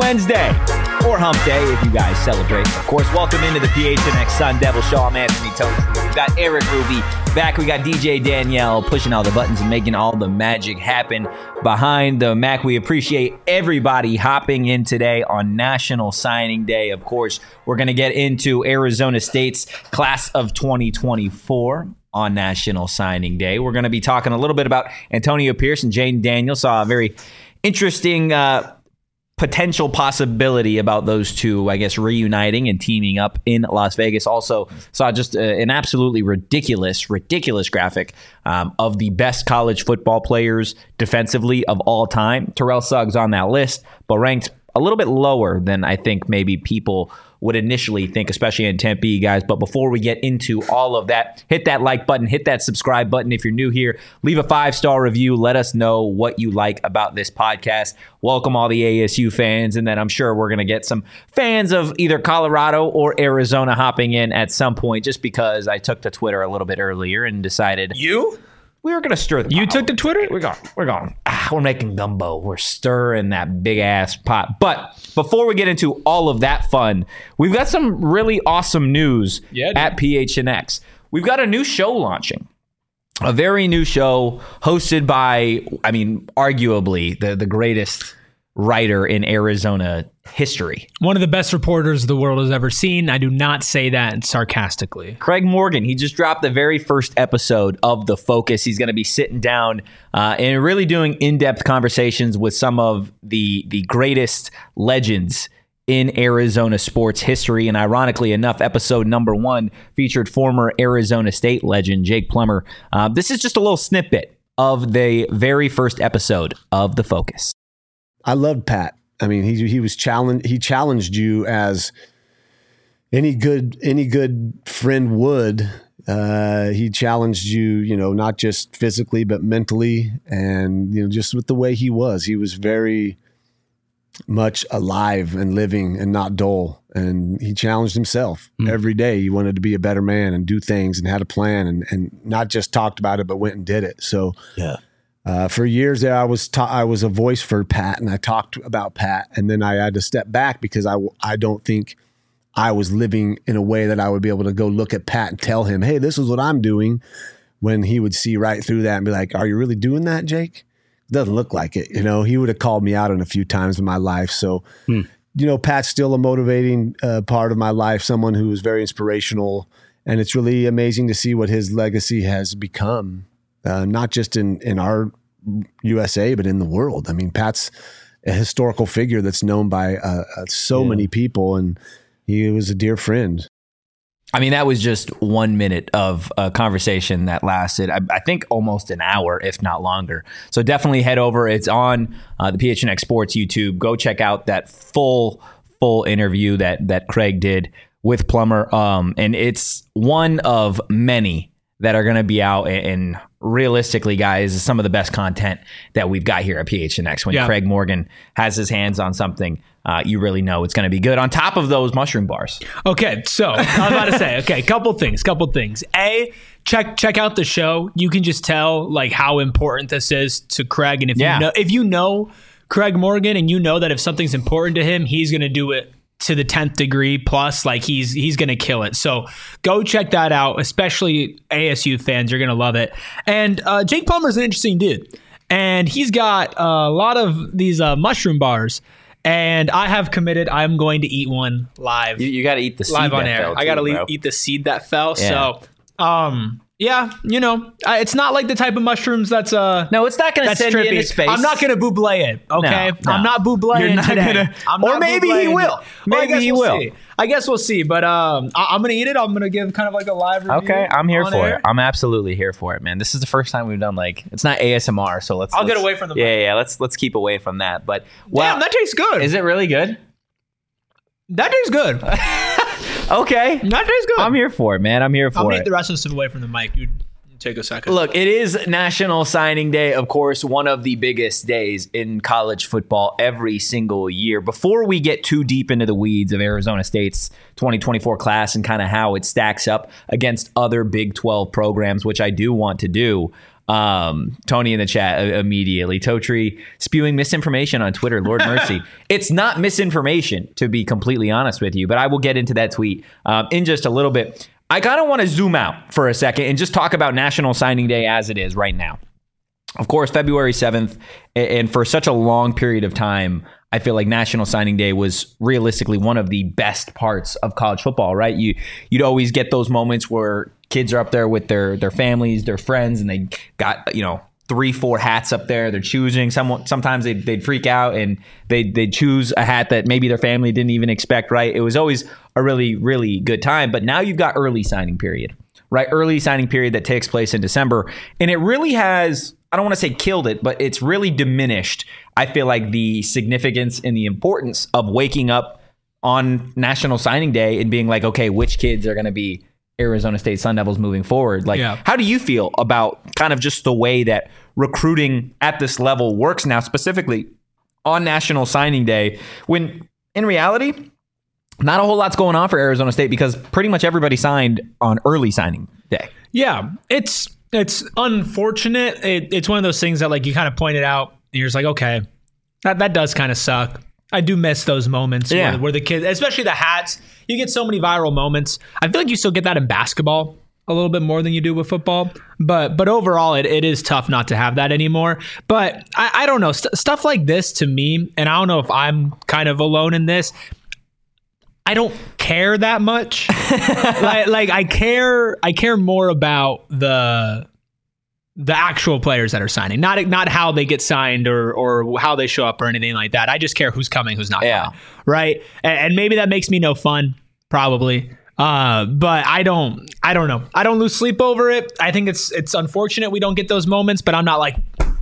Wednesday, or Hump Day if you guys celebrate. Of course, welcome into the PHNX Sun Devil Show. I'm Anthony Tones. We've got Eric Ruby back. We got DJ Danielle pushing all the buttons and making all the magic happen behind the Mac. We appreciate everybody hopping in today on National Signing Day. Of course, we're going to get into Arizona State's class of 2024 on National Signing Day. We're going to be talking a little bit about Antonio Pierce and Jayden Daniels. Saw a very interesting potential possibility about those two, I guess, reuniting and teaming up in Las Vegas. Also saw just an absolutely ridiculous graphic of the best college football players defensively of all time. Terrell Suggs on that list, but ranked a little bit lower than I think maybe people would initially think, especially in Tempe, guys. But before we get into all of that, hit that like button, hit that subscribe button. If you're new here, leave a 5-star review. Let us know what you like about this podcast. Welcome all the ASU fans. And then I'm sure we're going to get some fans of either Colorado or Arizona hopping in at some point, just because I took to Twitter a little bit earlier and decided... We were going to stir the pot. You took to Twitter? We're going. We're making gumbo. We're stirring that big ass pot. But before we get into all of that fun, we've got some really awesome news at PHNX. We've got a new show launching. A very new show hosted by, arguably the greatest writer in Arizona history. One of the best reporters the world has ever seen. I do not say that sarcastically. Craig Morgan, he just dropped the very first episode of The Focus. He's going to be sitting down and really doing in-depth conversations with some of the greatest legends in Arizona sports history. And ironically enough, episode number 1 featured former Arizona State legend Jake Plummer. This is just a little snippet of the very first episode of The Focus. I loved Pat. I mean, he was challenged. He challenged you as any good friend would. He challenged you, not just physically but mentally, and just with the way he was. He was very much alive and living and not dull. And he challenged himself every day. He wanted to be a better man and do things and had a plan and not just talked about it but went and did it. So yeah. For years there, I was a voice for Pat, and I talked about Pat, and then I had to step back because I don't think I was living in a way that I would be able to go look at Pat and tell him, hey, this is what I'm doing, when he would see right through that and be like, are you really doing that, Jake? Doesn't look like it. He would have called me out on a few times in my life. So, Pat's still a motivating part of my life, someone who is very inspirational, and it's really amazing to see what his legacy has become. Not just in our USA, but in the world. I mean, Pat's a historical figure that's known by so many people, and he was a dear friend. I mean, that was just 1 minute of a conversation that lasted, I think, almost an hour, if not longer. So definitely head over. It's on the PHNX Sports YouTube. Go check out that full interview that Craig did with Plummer. And it's one of many that are going to be out, and realistically, guys, is some of the best content that we've got here at PHNX. When Craig Morgan has his hands on something, you really know it's going to be good. On top of those mushroom bars. Okay, so I was about to say, couple things. A, check out the show. You can just tell how important this is to Craig, and if you know Craig Morgan, and you know that if something's important to him, he's going to do it to the 10th degree plus. He's going to kill it. So go check that out, especially ASU fans. You're going to love it. And Jake Plummer's an interesting dude. And he's got a lot of these mushroom bars. And I have committed, I'm going to eat one live. You got to eat the seed live on that air. fell, I got to eat the seed that fell. Yeah. So, it's not like the type of mushrooms that's no, it's not going to send you into space. I'm not going to Buble it, okay? No. I'm not Buble today. Or maybe he will. Maybe he will. I guess we'll see. But I'm going to eat it. I'm going to give kind of a live review. Okay, I'm here for air. it. I'm absolutely here for it, man. This is the first time we've done it's not ASMR, so let's get away from the mic. Yeah, let's keep away from that. But damn, that tastes good. Is it really good? That tastes good. Okay. That tastes good. I'm here for it, man. I'm here for it. I'll eat the rest of this away from the mic, dude. Take a second. Look, it is National Signing Day, of course, one of the biggest days in college football every single year. Before we get too deep into the weeds of Arizona State's 2024 class and kind of how it stacks up against other Big 12 programs, which I do want to do, Tony in the chat immediately. Totri spewing misinformation on Twitter. Lord mercy. It's not misinformation, to be completely honest with you, but I will get into that tweet in just a little bit. I kind of want to zoom out for a second and just talk about National Signing Day as it is right now. Of course, February 7th, and for such a long period of time, I feel like National Signing Day was realistically one of the best parts of college football, right? You'd always get those moments where kids are up there with their families, their friends, and they got, 3-4 hats up there. They're choosing. Sometimes they'd freak out and they'd choose a hat that maybe their family didn't even expect, right? It was always a really, really good time. But now you've got early signing period, right? Early signing period that takes place in December. And it really has, I don't want to say killed it, but it's really diminished, I feel like, the significance and the importance of waking up on National Signing Day and being like, okay, which kids are going to be Arizona State Sun Devils moving forward? Like, How do you feel about kind of just the way that recruiting at this level works now, specifically on National Signing Day, when in reality, not a whole lot's going on for Arizona State because pretty much everybody signed on early signing day? Yeah, it's unfortunate. It's one of those things that, like, you kind of pointed out, and you're just like, okay, that does kind of suck. I do miss those moments where the kids, especially the hats, you get so many viral moments. I feel like you still get that in basketball a little bit more than you do with football. But overall, it is tough not to have that anymore. But I don't know. Stuff like this, to me, and I don't know if I'm kind of alone in this, I don't care that much. like I care more about the actual players that are signing, not how they get signed or how they show up or anything like that. I just care who's coming, who's not coming, right? And maybe that makes me no fun, probably. But I don't know. I don't lose sleep over it. I think it's unfortunate we don't get those moments, but I'm not like,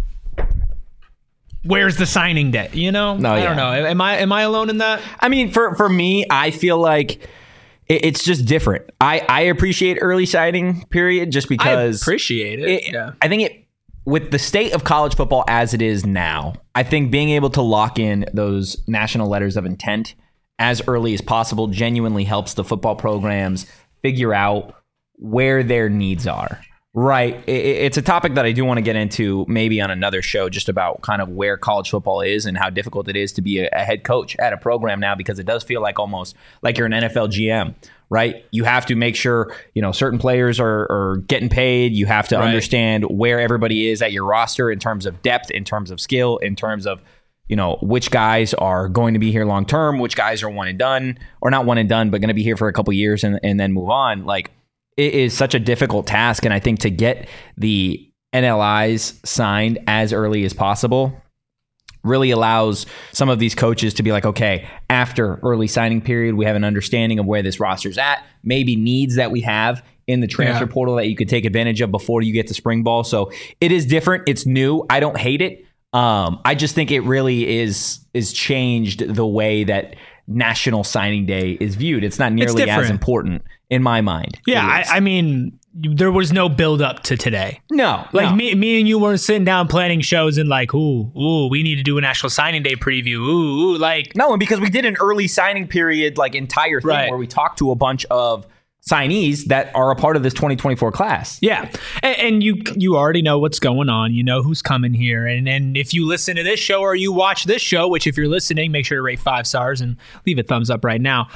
where's the signing day? I don't know. Am I alone in that? I mean, for me, I feel like it's just different. I appreciate early signing period just because I appreciate it. I think with the state of college football as it is now, I think being able to lock in those national letters of intent as early as possible genuinely helps the football programs figure out where their needs are. Right. It's a topic that I do want to get into maybe on another show, just about kind of where college football is and how difficult it is to be a head coach at a program now, because it does feel like almost like you're an NFL GM, right? You have to make sure, certain players are getting paid. You have to understand where everybody is at your roster in terms of depth, in terms of skill, in terms of, which guys are going to be here long term, which guys are one and done, or not one and done, but going to be here for a couple years and then move on. Like, it is such a difficult task. And I think to get the NLIs signed as early as possible really allows some of these coaches to be like, okay, after early signing period, we have an understanding of where this roster's at, maybe needs that we have in the transfer portal that you could take advantage of before you get to spring ball. So it is different. It's new. I don't hate it. I just think it really is changed the way that National Signing Day is viewed. It's not nearly as important in my mind. Yeah, I mean, there was no build up to today. No. Me and you weren't sitting down planning shows and like, ooh, we need to do a National Signing Day preview. Ooh, like. No, and because we did an early signing period, like, entire thing where we talked to a bunch of signees that are a part of this 2024 class. Yeah. And you already know what's going on. You know who's coming here. And if you listen to this show or you watch this show, which if you're listening, make sure to rate 5 stars and leave a thumbs up right now.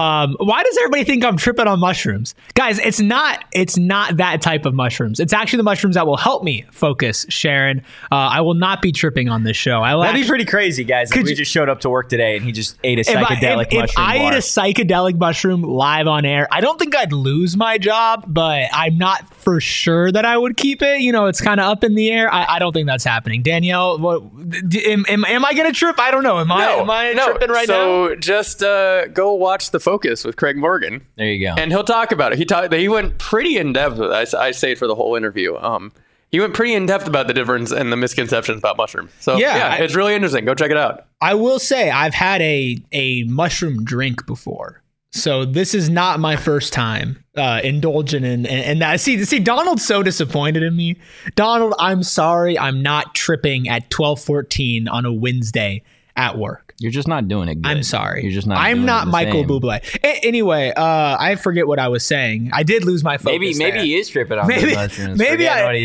Why does everybody think I'm tripping on mushrooms? Guys, it's not that type of mushrooms. It's actually the mushrooms that will help me focus, Sharon. I will not be tripping on this show. That'd be pretty crazy, guys. If we just showed up to work today and he just ate a psychedelic mushroom. If I ate a psychedelic mushroom live on air, I don't think I'd lose my job, but I'm not for sure that I would keep it. It's kind of up in the air. I don't think that's happening. Danielle, am I going to trip? I don't know. Am I tripping right now? So just go watch The Focus with Craig Morgan. There you go. And he'll talk about it. He went pretty in depth. I say it for the whole interview. He went pretty in depth about the difference and the misconceptions about mushrooms. So it's really interesting. Go check it out. I will say I've had a mushroom drink before. So this is not my first time indulging in that. See, Donald's so disappointed in me. Donald, I'm sorry. I'm not tripping at 12:14 on a Wednesday at work. You're just not doing it good. I'm sorry. You're just not. I'm not Michael Bublé. Anyway, I forget what I was saying. I did lose my focus. Maybe he is tripping on the mushrooms. Maybe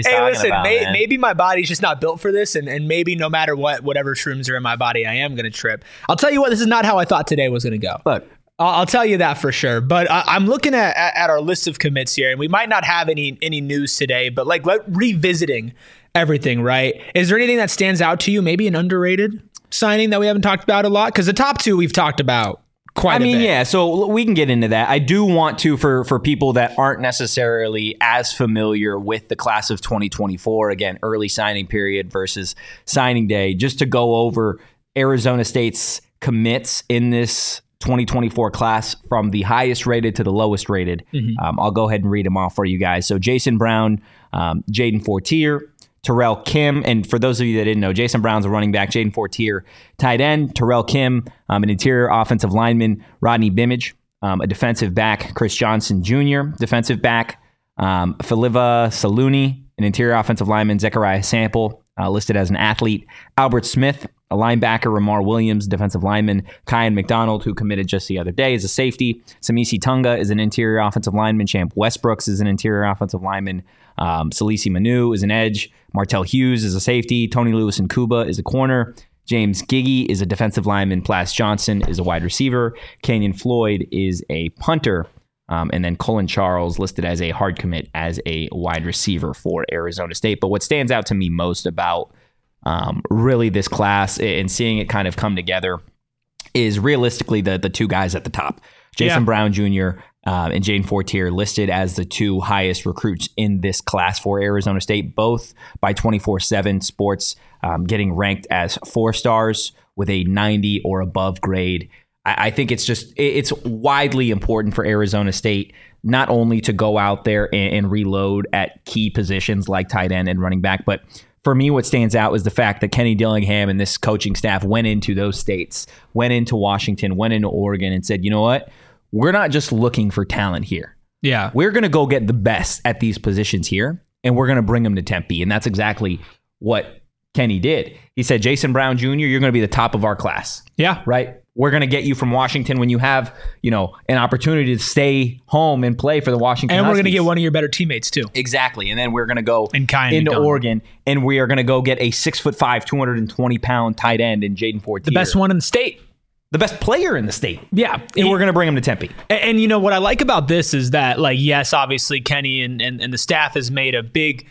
maybe my body's just not built for this, and maybe no matter whatever shrooms are in my body, I am gonna trip. I'll tell you what, this is not how I thought today was gonna go. Look, I'll tell you that for sure. But I'm looking at our list of commits here, and we might not have any news today. But like revisiting everything, right? Is there anything that stands out to you? Maybe an underrated signing that we haven't talked about a lot? Because the top two we've talked about quite a bit. Yeah, so we can get into that. I do want to, for people that aren't necessarily as familiar with the class of 2024, again, early signing period versus signing day, just to go over Arizona State's commits in this 2024 class from the highest rated to the lowest rated. Mm-hmm. I'll go ahead and read them off for you guys. So Jason Brown, Jaden Fortier, Terrell Kim, and for those of you that didn't know, Jason Brown's a running back, Jaden Fortier, tight end, Terrell Kim, an interior offensive lineman, Rodney Bimage, a defensive back, Chris Johnson Jr., defensive back, Faliva Saluni, an interior offensive lineman, Zechariah Sample, listed as an athlete, Albert Smith, a linebacker, Ramar Williams, defensive lineman, Kyan McDonald, who committed just the other day, is a safety, Samisi Tunga is an interior offensive lineman, Champ Westbrooks is an interior offensive lineman, Salisi Manu is an edge, Martell Hughes is a safety, Tony Lewis and Kuba is a corner, James Giggy is a defensive lineman, Plas Johnson is a wide receiver, Kenyon Floyd is a punter, and then Cullen Charles listed as a hard commit as a wide receiver for Arizona State. But what stands out to me most about really this class and seeing it kind of come together is realistically the two guys at the top, Jason Brown Jr. And Jaden Fortier, listed as the two highest recruits in this class for Arizona State, both by 24/7 Sports, getting ranked as 4 stars with a 90 or above grade. I think it's widely important for Arizona State not only to go out there and reload at key positions like tight end and running back, but for me, what stands out is the fact that Kenny Dillingham and this coaching staff went into those states, went into Washington, went into Oregon, and said, you know what? We're not just looking for talent here. Yeah. We're going to go get the best at these positions here, and we're going to bring them to Tempe. And that's exactly what Kenny did. He said, Jason Brown Jr., you're going to be the top of our class. Yeah. Right? We're going to get you from Washington when you have, an opportunity to stay home and play for the Washington And Huskies. We're going to get one of your better teammates, too. Exactly. And then we're going to go into Oregon, and we are going to go get a 6'5", 220-pound tight end in Jaden Fortier. The best one in the state. The best player in the state. Yeah. And we're going to bring him to Tempe. And what I like about this is that, yes, obviously Kenny and the staff has made a big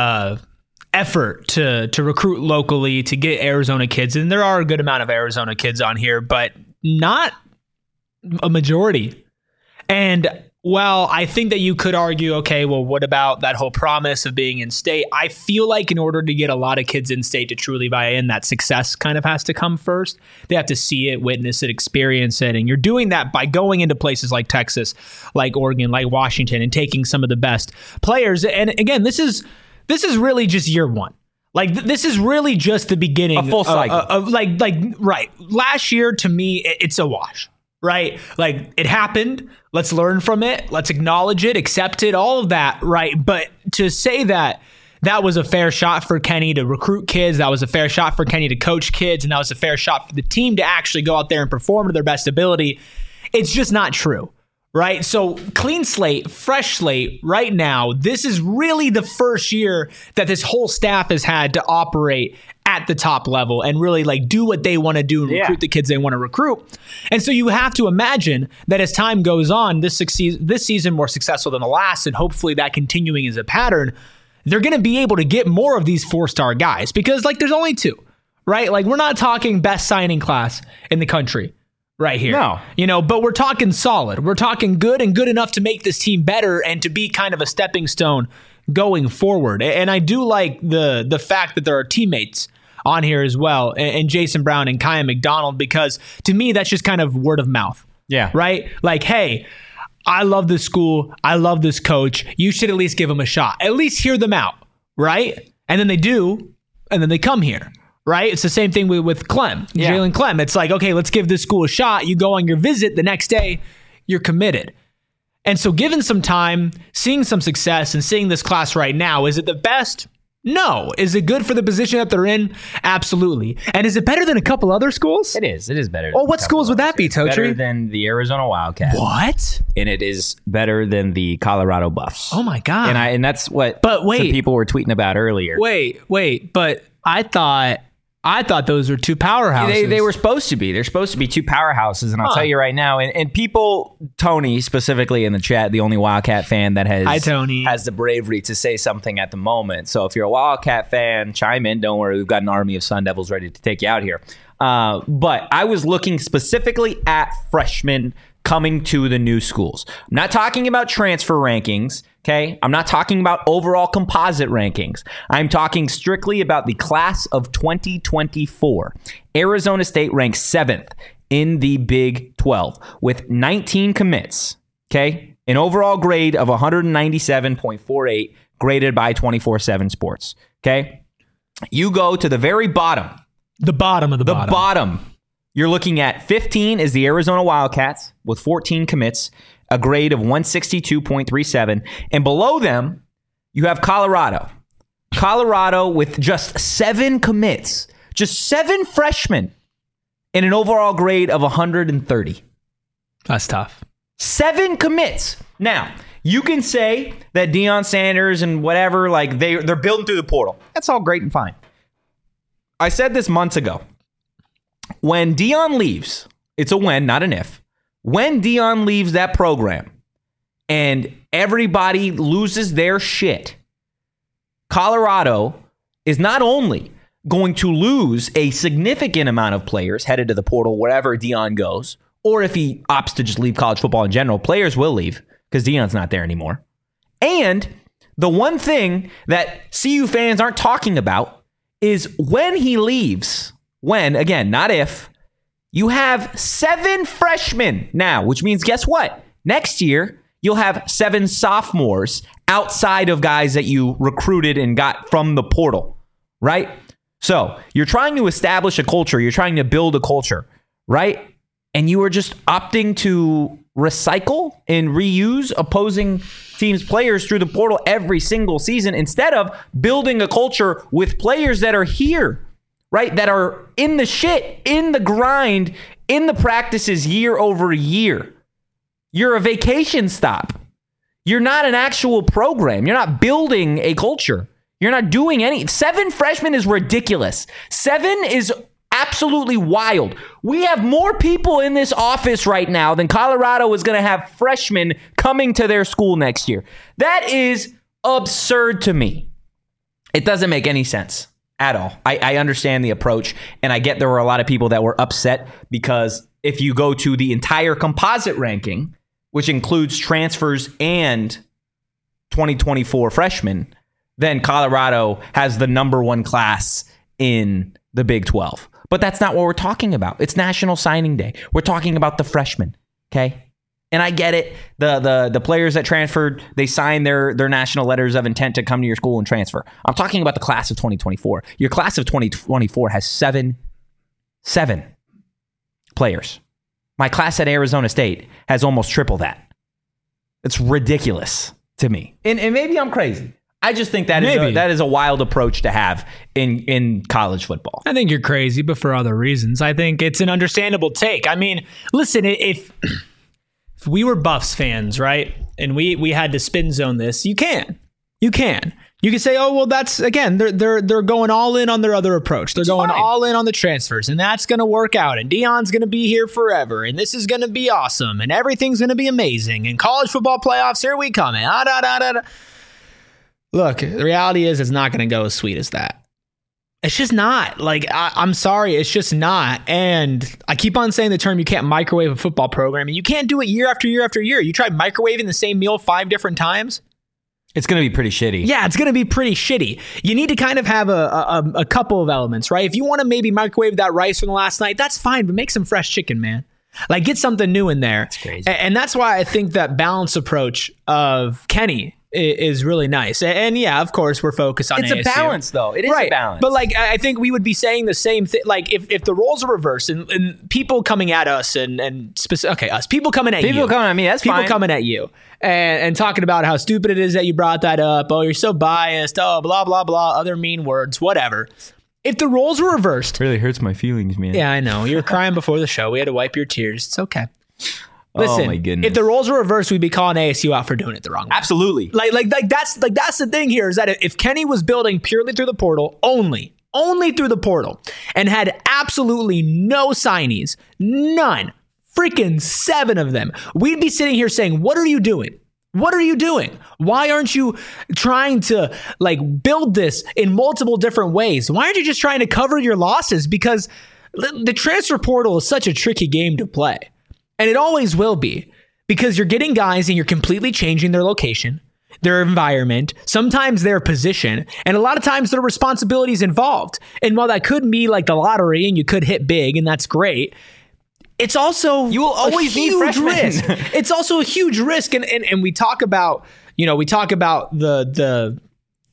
effort to recruit locally, to get Arizona kids. And there are a good amount of Arizona kids on here, but not a majority. And while I think that you could argue, okay, well, what about that whole promise of being in state? I feel like in order to get a lot of kids in state to truly buy in, that success kind of has to come first. They have to see it, witness it, experience it. And you're doing that by going into places like Texas, like Oregon, like Washington, and taking some of the best players. And again, this is really just year one. Like, this is really just the beginning. A full cycle. Right. Last year, to me, it's a wash. Right? Like, it happened. Let's learn from it. Let's acknowledge it, accept it, all of that. Right? But to say that was a fair shot for Kenny to recruit kids, that was a fair shot for Kenny to coach kids, and that was a fair shot for the team to actually go out there and perform to their best ability, it's just not true. Right? So clean slate, fresh slate right now. This is really the first year that this whole staff has had to operate at the top level and really do what they want to do and recruit the kids they want to recruit. And so you have to imagine that as time goes on, this season more successful than the last, and hopefully that continuing as a pattern, they're going to be able to get more of these 4-star guys because there's only 2, right? We're not talking best signing class in the country. Right here. No. But we're talking solid. We're talking good and good enough to make this team better and to be kind of a stepping stone going forward. And I do like the fact that there are teammates on here as well, and Jason Brown and Kyan McDonald, because to me, that's just kind of word of mouth. Yeah. Right? Hey, I love this school. I love this coach. You should at least give them a shot. At least hear them out. Right? And then they do, and then they come here. Right? It's the same thing with Clem, Jalen Clem. It's okay, let's give this school a shot. You go on your visit. The next day, you're committed. And so given some time, seeing some success, and seeing this class right now, is it the best? No. Is it good for the position that they're in? Absolutely. And is it better than a couple other schools? It is. It is better. Oh, what schools would that be, Totri? Better than the Arizona Wildcats. What? And it is better than the Colorado Buffs. Oh my God. And that's what some people were tweeting about earlier. Wait. But I thought those were two powerhouses. They were supposed to be. They're supposed to be two powerhouses, and I'll tell you right now. And people, Tony specifically in the chat, the only Wildcat fan that has the bravery to say something at the moment. So if you're a Wildcat fan, chime in. Don't worry, we've got an army of Sun Devils ready to take you out here. But I was looking specifically at freshmen coming to the new schools. I'm not talking about transfer rankings. Okay, I'm not talking about overall composite rankings. I'm talking strictly about the class of 2024. Arizona State ranks 7th in the Big 12 with 19 commits. Okay, an overall grade of 197.48 graded by 24/7 Sports. Okay, you go to the very bottom. The bottom of the bottom. The bottom. You're looking at 15 is the Arizona Wildcats with 14 commits, a grade of 162.37. And below them, you have Colorado. Colorado with just 7 commits, just 7 freshmen, and an overall grade of 130. That's tough. 7 commits. Now, you can say that Deion Sanders and whatever, like they're building through the portal. That's all great and fine. I said this months ago. When Deion leaves, it's a when, not an if. When Deion leaves that program and everybody loses their shit, Colorado is not only going to lose a significant amount of players headed to the portal wherever Deion goes, or if he opts to just leave college football in general, players will leave because Deion's not there anymore. And the one thing that CU fans aren't talking about is when he leaves. When, again, not if, you have 7 freshmen now, which means guess what? Next year, you'll have 7 sophomores outside of guys that you recruited and got from the portal, right? So you're trying to establish a culture. You're trying to build a culture, right? And you are just opting to recycle and reuse opposing teams' players through the portal every single season instead of building a culture with players that are here, right? That are in the shit, in the grind, in the practices year over year. You're a vacation stop. You're not an actual program. You're not building a culture. You're not doing any. 7 freshmen is ridiculous. 7 is absolutely wild. We have more people in this office right now than Colorado is going to have freshmen coming to their school next year. That is absurd to me. It doesn't make any sense at all. I understand the approach, and I get there were a lot of people that were upset because if you go to the entire composite ranking, which includes transfers and 2024 freshmen, then Colorado has the number 1 class in the Big 12. But that's not what we're talking about. It's National Signing Day. We're talking about the freshmen, okay? And I get it. The players that transferred, they signed their national letters of intent to come to your school and transfer. I'm talking about the class of 2024. Your class of 2024 has 7 players. My class at Arizona State has almost triple that. It's ridiculous to me. And maybe I'm crazy. I just think that is a wild approach to have in college football. I think you're crazy, but for other reasons. I think it's an understandable take. I mean, listen, if we were Buffs fans, right, and we had to spin zone this, you can say, oh, well, that's, again, they're going all in on their other approach. They're going all in on the transfers, and that's going to work out, and Deion's going to be here forever, and this is going to be awesome, and everything's going to be amazing, and college football playoffs, here we come. Look, the reality is it's not going to go as sweet as that. It's just not. Like, I'm sorry, it's just not. And I keep on saying the term, you can't microwave a football program, and you can't do it year after year after year. You try microwaving the same meal 5 different times, it's going to be pretty shitty. Yeah, it's going to be pretty shitty. You need to kind of have a couple of elements, right? If you want to maybe microwave that rice from the last night, that's fine, but make some fresh chicken, man. Like, get something new in there. That's crazy. And that's why I think that balanced approach of Kenny is really nice. And yeah, of course, we're focused on it's ASU. A balance, though. It is a balance. But like, I think we would be saying the same thing. Like, if the roles are reversed and people coming at us people coming at you. People coming at me, that's people fine. Coming at you and talking about how stupid it is that you brought that up. Oh, you're so biased. Oh, blah, blah, blah. Other mean words, whatever. If the roles were reversed. It really hurts my feelings, man. Yeah, I know. You were crying before the show. We had to wipe your tears. It's okay. Listen, oh my goodness. If the roles were reversed, we'd be calling ASU out for doing it the wrong way. Absolutely. Like that's the thing here is that if Kenny was building purely through the portal, only through the portal, and had absolutely no signees, none, freaking 7 of them, we'd be sitting here saying, what are you doing? What are you doing? Why aren't you trying to like build this in multiple different ways? Why aren't you just trying to cover your losses? Because the transfer portal is such a tricky game to play. And it always will be, because you're getting guys and you're completely changing their location, their environment, sometimes their position, and a lot of times their responsibilities involved. And while that could be like the lottery and you could hit big and that's great, it's also you will always need freshmen. Risk. It's also a huge risk. And we talk about, the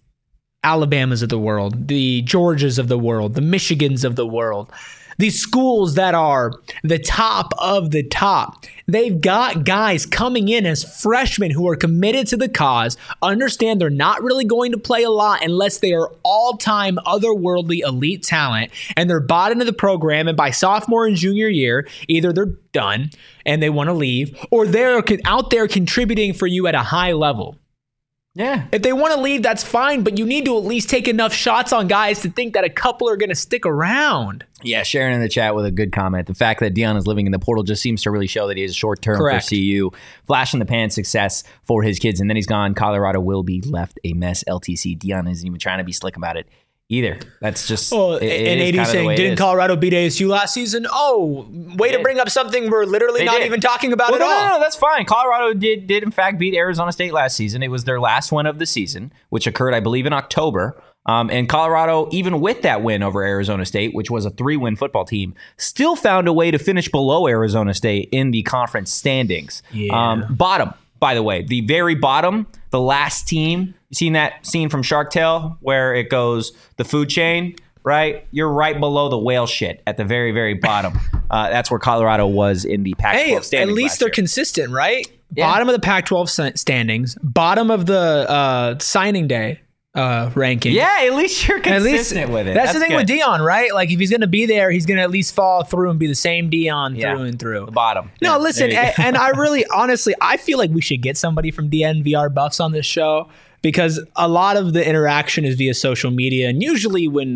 Alabamas of the world, the Georgias of the world, the Michigans of the world. These schools that are the top of the top, they've got guys coming in as freshmen who are committed to the cause, understand they're not really going to play a lot unless they are all-time otherworldly elite talent, and they're bought into the program, and by sophomore and junior year, either they're done and they want to leave, or they're out there contributing for you at a high level. Yeah. If they want to leave, that's fine, but you need to at least take enough shots on guys to think that a couple are going to stick around. Yeah, Sharon in the chat with a good comment. The fact that Deion is living in the portal just seems to really show that he is short-term for CU. Flash in the pan success for his kids, and then he's gone. Colorado will be left a mess. LTC. Deion isn't even trying to be slick about it either. That's just and AD saying, didn't Colorado beat ASU last season? Oh, way to bring up something we're literally not even talking about at all. No, that's fine. Colorado did in fact beat Arizona State last season. It was their last win of the season, which occurred, I believe, in October. And Colorado, even with that win over Arizona State, which was a 3-win football team, still found a way to finish below Arizona State in the conference standings. Yeah. Bottom, by the way, the very bottom, the last team. You seen that scene from Shark Tale where it goes the food chain, right? You're right below the whale shit at the very, very bottom. That's where Colorado was in the Pac-12 standings. At least they're consistent, right? Yeah. Bottom of the Pac-12 standings, bottom of the signing day ranking. Yeah, at least you're consistent with it. That's the thing good. With Deion, right? Like if he's going to be there, he's going to at least follow through and be the same Deion through and through. The bottom. No, listen, and I really, honestly, I feel like we should get somebody from DNVR Buffs on this show because a lot of the interaction is via social media, and usually when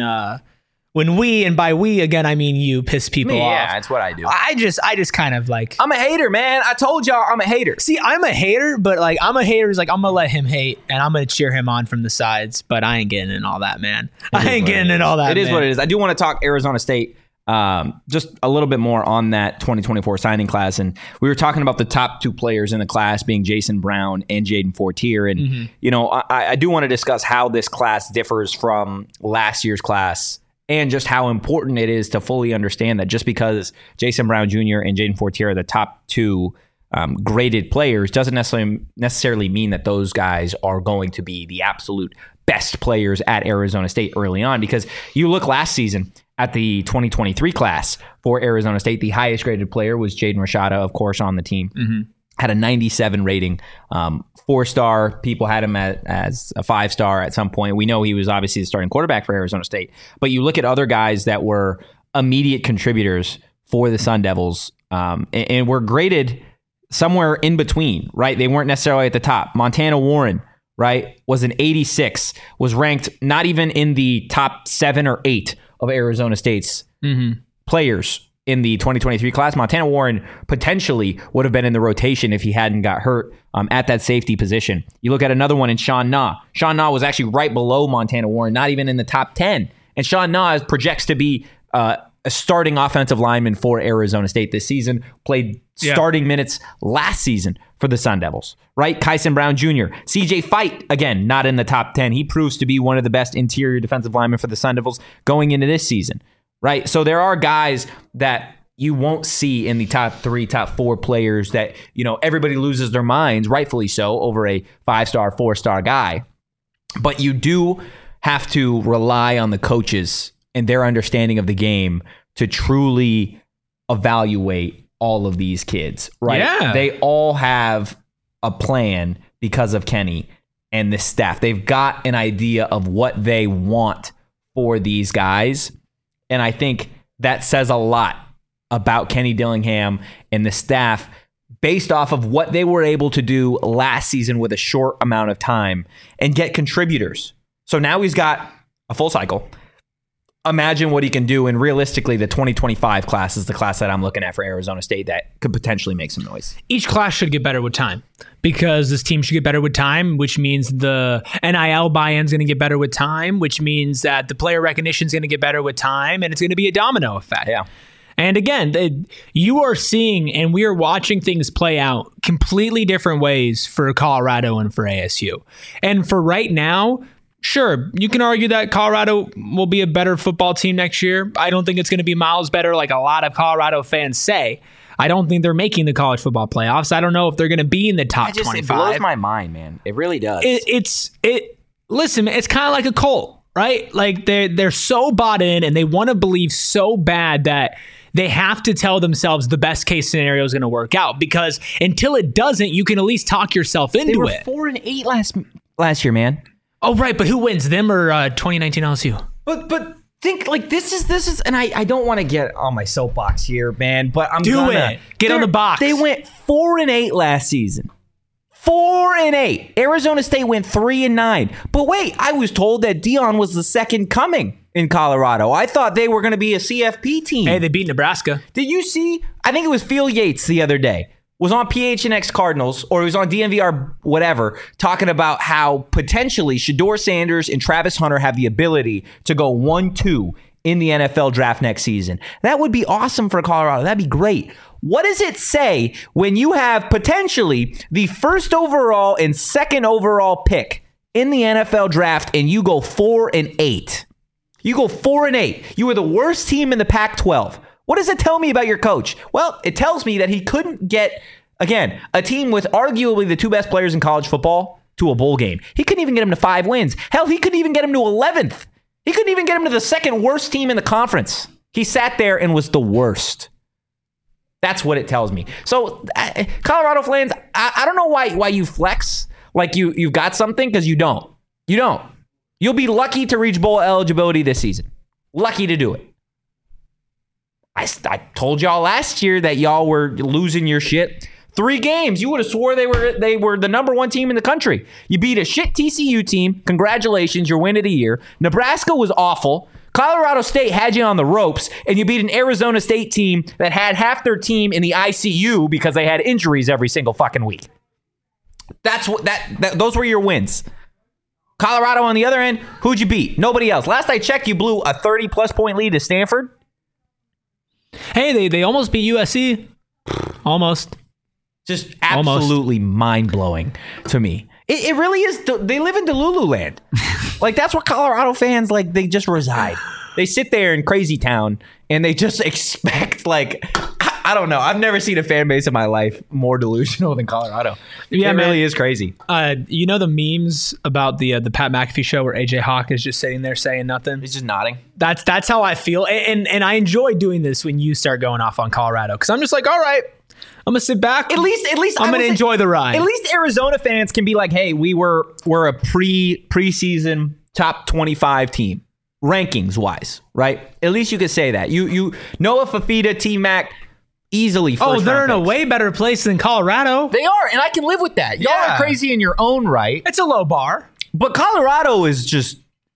we, and by we again I mean you, piss people off. Yeah, that's what I do. I just kind of like, I'm a hater, man. I told y'all I'm a hater. See, I'm a hater, but like I'm a hater is like I'm gonna let him hate and I'm gonna cheer him on from the sides, but I ain't getting in all that, man. I ain't getting in all that. It is what it is. I do want to talk Arizona State just a little bit more on that 2024 signing class, and we were talking about the top 2 players in the class being Jason Brown and Jaden Fortier, and you know I do want to discuss how this class differs from last year's class. And just how important it is to fully understand that just because Jason Brown Jr. and Jaden Fortier are the top 2 graded players doesn't necessarily mean that those guys are going to be the absolute best players at Arizona State early on. Because you look last season at the 2023 class for Arizona State, the highest graded player was Jaden Rashada, of course, on the team. Had a 97 rating, 4-star. People had him as a 5-star at some point. We know he was obviously the starting quarterback for Arizona State. But you look at other guys that were immediate contributors for the Sun Devils and were graded somewhere in between, right? They weren't necessarily at the top. Montana Warren, right, was an 86, was ranked not even in the top 7 or 8 of Arizona State's players in the 2023 class. Montana Warren potentially would have been in the rotation if he hadn't got hurt at that safety position. You look at another one in Sean Na. Sean Na was actually right below Montana Warren, not even in the top 10. And Sean Na projects to be a starting offensive lineman for Arizona State this season, played starting minutes last season for the Sun Devils, right? Kyson Brown Jr. CJ Fight, again, not in the top 10. He proves to be one of the best interior defensive linemen for the Sun Devils going into this season. Right. So there are guys that you won't see in the top 3, top 4 players that, everybody loses their minds, rightfully so, over a 5-star, 4-star guy. But you do have to rely on the coaches and their understanding of the game to truly evaluate all of these kids, right? Yeah. They all have a plan because of Kenny and the staff. They've got an idea of what they want for these guys. And I think that says a lot about Kenny Dillingham and the staff based off of what they were able to do last season with a short amount of time and get contributors. So now he's got a full cycle. Imagine what he can do. And realistically, the 2025 class is the class that I'm looking at for Arizona State that could potentially make some noise. Each class should get better with time because this team should get better with time, which means the NIL buy-in is going to get better with time, which means that the player recognition is going to get better with time, and it's going to be a domino effect. Yeah. And again, you are seeing and we are watching things play out completely different ways for Colorado and for ASU. And for right now, sure, you can argue that Colorado will be a better football team next year. I don't think it's going to be miles better like a lot of Colorado fans say. I don't think they're making the college football playoffs. I don't know if they're going to be in the top 25. It blows my mind, man. It really does. Listen, it's kind of like a cult, right? Like they're so bought in and they want to believe so bad that they have to tell themselves the best case scenario is going to work out, because until it doesn't, you can at least talk yourself into it. They were 4-8 last year, man. Oh, right. But who wins, them or 2019 LSU? But think like this is, and I don't want to get on my soapbox here, man, but I'm gonna get on the box. They went 4-8 last season. 4-8. Arizona State went 3-9. But wait, I was told that Deion was the second coming in Colorado. I thought they were going to be a CFP team. Hey, they beat Nebraska. Did you see? I think it was Phil Yates the other day. Was on PHNX Cardinals, or he was on DNVR whatever, talking about how potentially Shedeur Sanders and Travis Hunter have the ability to go 1-2 in the NFL draft next season. That would be awesome for Colorado. That'd be great. What does it say when you have potentially the first overall and second overall pick in the NFL draft and you go 4-8? You go 4-8. You were the worst team in the Pac-12. What does it tell me about your coach? Well, it tells me that he couldn't get, again, a team with arguably the 2 best players in college football to a bowl game. He couldn't even get him to 5 wins. Hell, he couldn't even get him to 11th. He couldn't even get him to the second worst team in the conference. He sat there and was the worst. That's what it tells me. So, Colorado fans, I don't know why you flex like you've got something, because you don't. You don't. You'll be lucky to reach bowl eligibility this season. Lucky to do it. I told y'all last year that y'all were losing your shit. 3 games. You would have swore they were the number 1 team in the country. You beat a shit TCU team. Congratulations, your win of the year. Nebraska was awful. Colorado State had you on the ropes, and you beat an Arizona State team that had half their team in the ICU because they had injuries every single fucking week. That's what those were your wins. Colorado on the other end, who'd you beat? Nobody else. Last I checked, you blew a 30-plus point lead to Stanford. Hey, they almost beat USC. Almost. Just absolutely mind-blowing to me. It really is. They live in Delulu land. Like, that's where Colorado fans, like, they just reside. They sit there in Crazy Town, and they just expect, like, I don't know. I've never seen a fan base in my life more delusional than Colorado. Yeah, it really is crazy. You know the memes about the Pat McAfee show where AJ Hawk is just sitting there saying nothing? He's just nodding. That's how I feel. And I enjoy doing this when you start going off on Colorado, because I'm just like, all right, I'm gonna sit back. At least I'm gonna enjoy the ride. At least Arizona fans can be like, hey, we're a preseason top 25 team, rankings wise, right? At least you could say that. You Noah Fafita, T-Mac, easily first they're in picks. a way better place than Colorado. They are, and I can live with that. Y'all are crazy in your own right. It's a low bar. But Colorado is just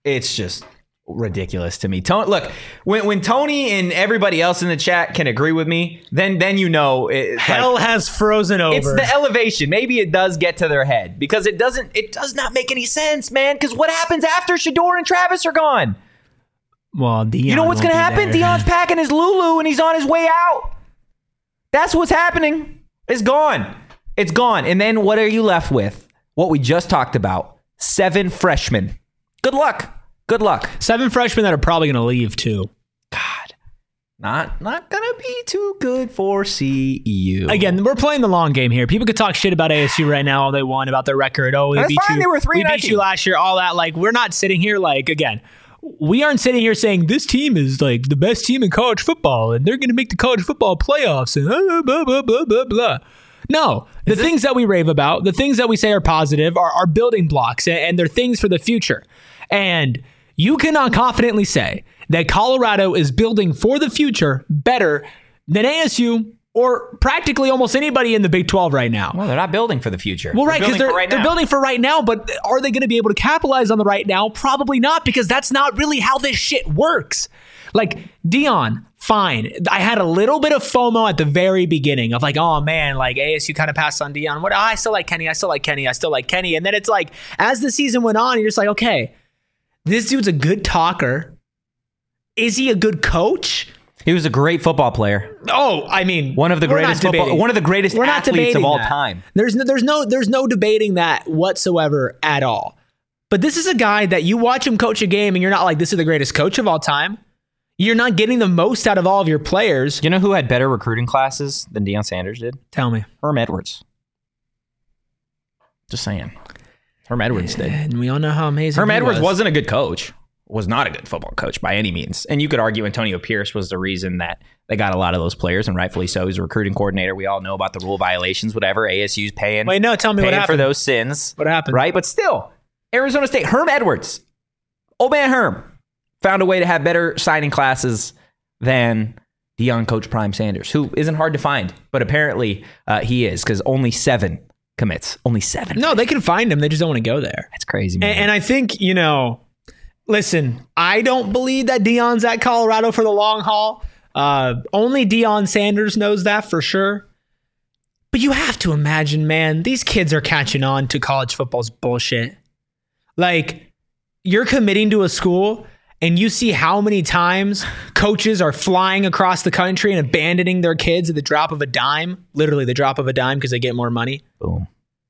ridiculous to me. Look, when Tony and everybody else in the chat can agree with me, then you know hell has frozen over. It's the elevation. Maybe it does get to their head, because it does not make any sense, man. Because what happens after Shedeur and Travis are gone? Well, Deion, you know what's going to happen? Deion's packing his Lulu and he's on his way out. That's what's happening. It's gone. It's gone. And then what are you left with? What we just talked about. 7 freshmen. Good luck. 7 freshmen that are probably going to leave too. God. Not gonna be too good for CU. Again, we're playing the long game here. People could talk shit about ASU right now all they want, about their record. Oh, they beat you. They were 3-19. We beat you last year. All that. Like, we're not sitting here like, again, we aren't sitting here saying this team is like the best team in college football and they're going to make the college football playoffs and blah, blah, blah, blah, blah. No, the things that we rave about, the things that we say are positive are building blocks and they're things for the future. And you cannot confidently say that Colorado is building for the future better than ASU or practically almost anybody in the Big 12 right now. Well, they're not building for the future. Well, right, because they're building for right now, but are they going to be able to capitalize on the right now? Probably not, because that's not really how this shit works. Like, Deion, fine. I had a little bit of FOMO at the very beginning of like, oh man, like ASU kind of passed on Deion. I still like Kenny. And then it's like, as the season went on, you're just like, okay, this dude's a good talker. Is he a good coach? He was a great football player. Oh, I mean, one of the greatest athletes of all time. There's no debating that whatsoever at all. But this is a guy that you watch him coach a game and you're not like, this is the greatest coach of all time. You're not getting the most out of all of your players. You know who had better recruiting classes than Deion Sanders did? Tell me. Herm Edwards. Just saying. Herm Edwards did. And we all know how amazing Herm Edwards wasn't a good coach. Was not a good football coach by any means. And you could argue Antonio Pierce was the reason that they got a lot of those players, and rightfully so. He's a recruiting coordinator. We all know about the rule violations, whatever. ASU's paying. Wait, no, tell me what happened. For those sins. What happened? Right? But still, Arizona State, Herm Edwards, old man Herm, found a way to have better signing classes than Deion Coach Prime Sanders, who isn't hard to find, but apparently he is, because only 7 commits. Only 7. No, they can find him. They just don't want to go there. That's crazy, man. And I think, listen, I don't believe that Deion's at Colorado for the long haul. Only Deion Sanders knows that for sure. But you have to imagine, man, these kids are catching on to college football's bullshit. Like, you're committing to a school and you see how many times coaches are flying across the country and abandoning their kids at the drop of a dime. Literally the drop of a dime because they get more money. Boom.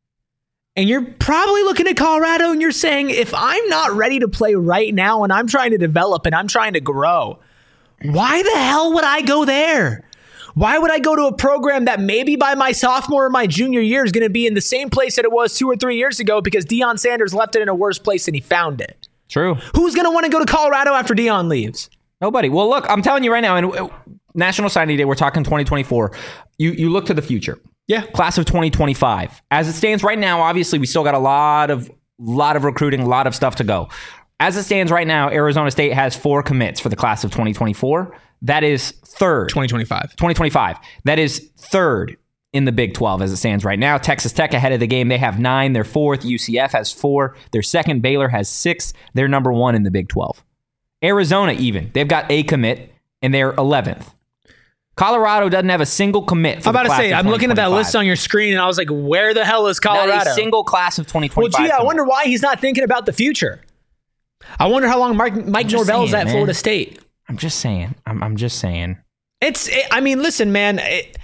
And you're probably looking at Colorado and you're saying, if I'm not ready to play right now and I'm trying to develop and I'm trying to grow, why the hell would I go there? Why would I go to a program that maybe by my sophomore or my junior year is going to be in the same place that it was 2 or 3 years ago because Deion Sanders left it in a worse place than he found it? True. Who's going to want to go to Colorado after Deion leaves? Nobody. Well, look, I'm telling you right now, and National Signing Day, we're talking 2024. You look to the future. Yeah. Class of 2025. As it stands right now, obviously, we still got a lot of recruiting, a lot of stuff to go. As it stands right now, Arizona State has 4 commits for the class of 2024. That is third. 2025. That is third in the Big 12 as it stands right now. Texas Tech ahead of the game. They have 9. They're 4th. UCF has 4. They're 2nd. Baylor has 6. They're number 1 in the Big 12. Arizona even. They've got a commit, and they're 11th. Colorado doesn't have a single commit. I'm about to say, I'm looking at that list on your screen, and I was like, where the hell is Colorado? Not a single class of 2025. Well, gee, I wonder why he's not thinking about the future. I wonder how long Mike Norvell's at Florida State. I'm just saying. I'm just saying. I mean, listen, man.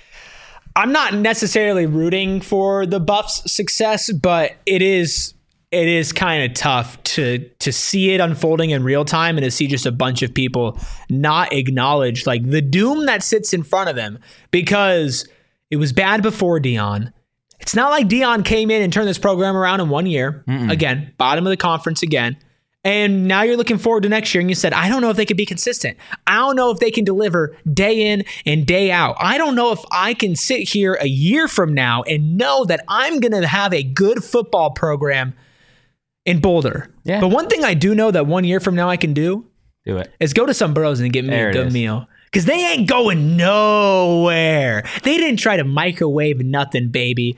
I'm not necessarily rooting for the Buffs' success, but it is kind of tough to see it unfolding in real time and to see just a bunch of people not acknowledge like the doom that sits in front of them, because it was bad before Deion. It's not like Deion came in and turned this program around in 1 year. Again, bottom of the conference again. And now you're looking forward to next year and you said, I don't know if they can be consistent. I don't know if they can deliver day in and day out. I don't know if I can sit here a year from now and know that I'm going to have a good football program in Boulder. Yeah. But one thing I do know that 1 year from now I can do it is go to some Burros and get me a good meal. Because they ain't going nowhere. They didn't try to microwave nothing, baby.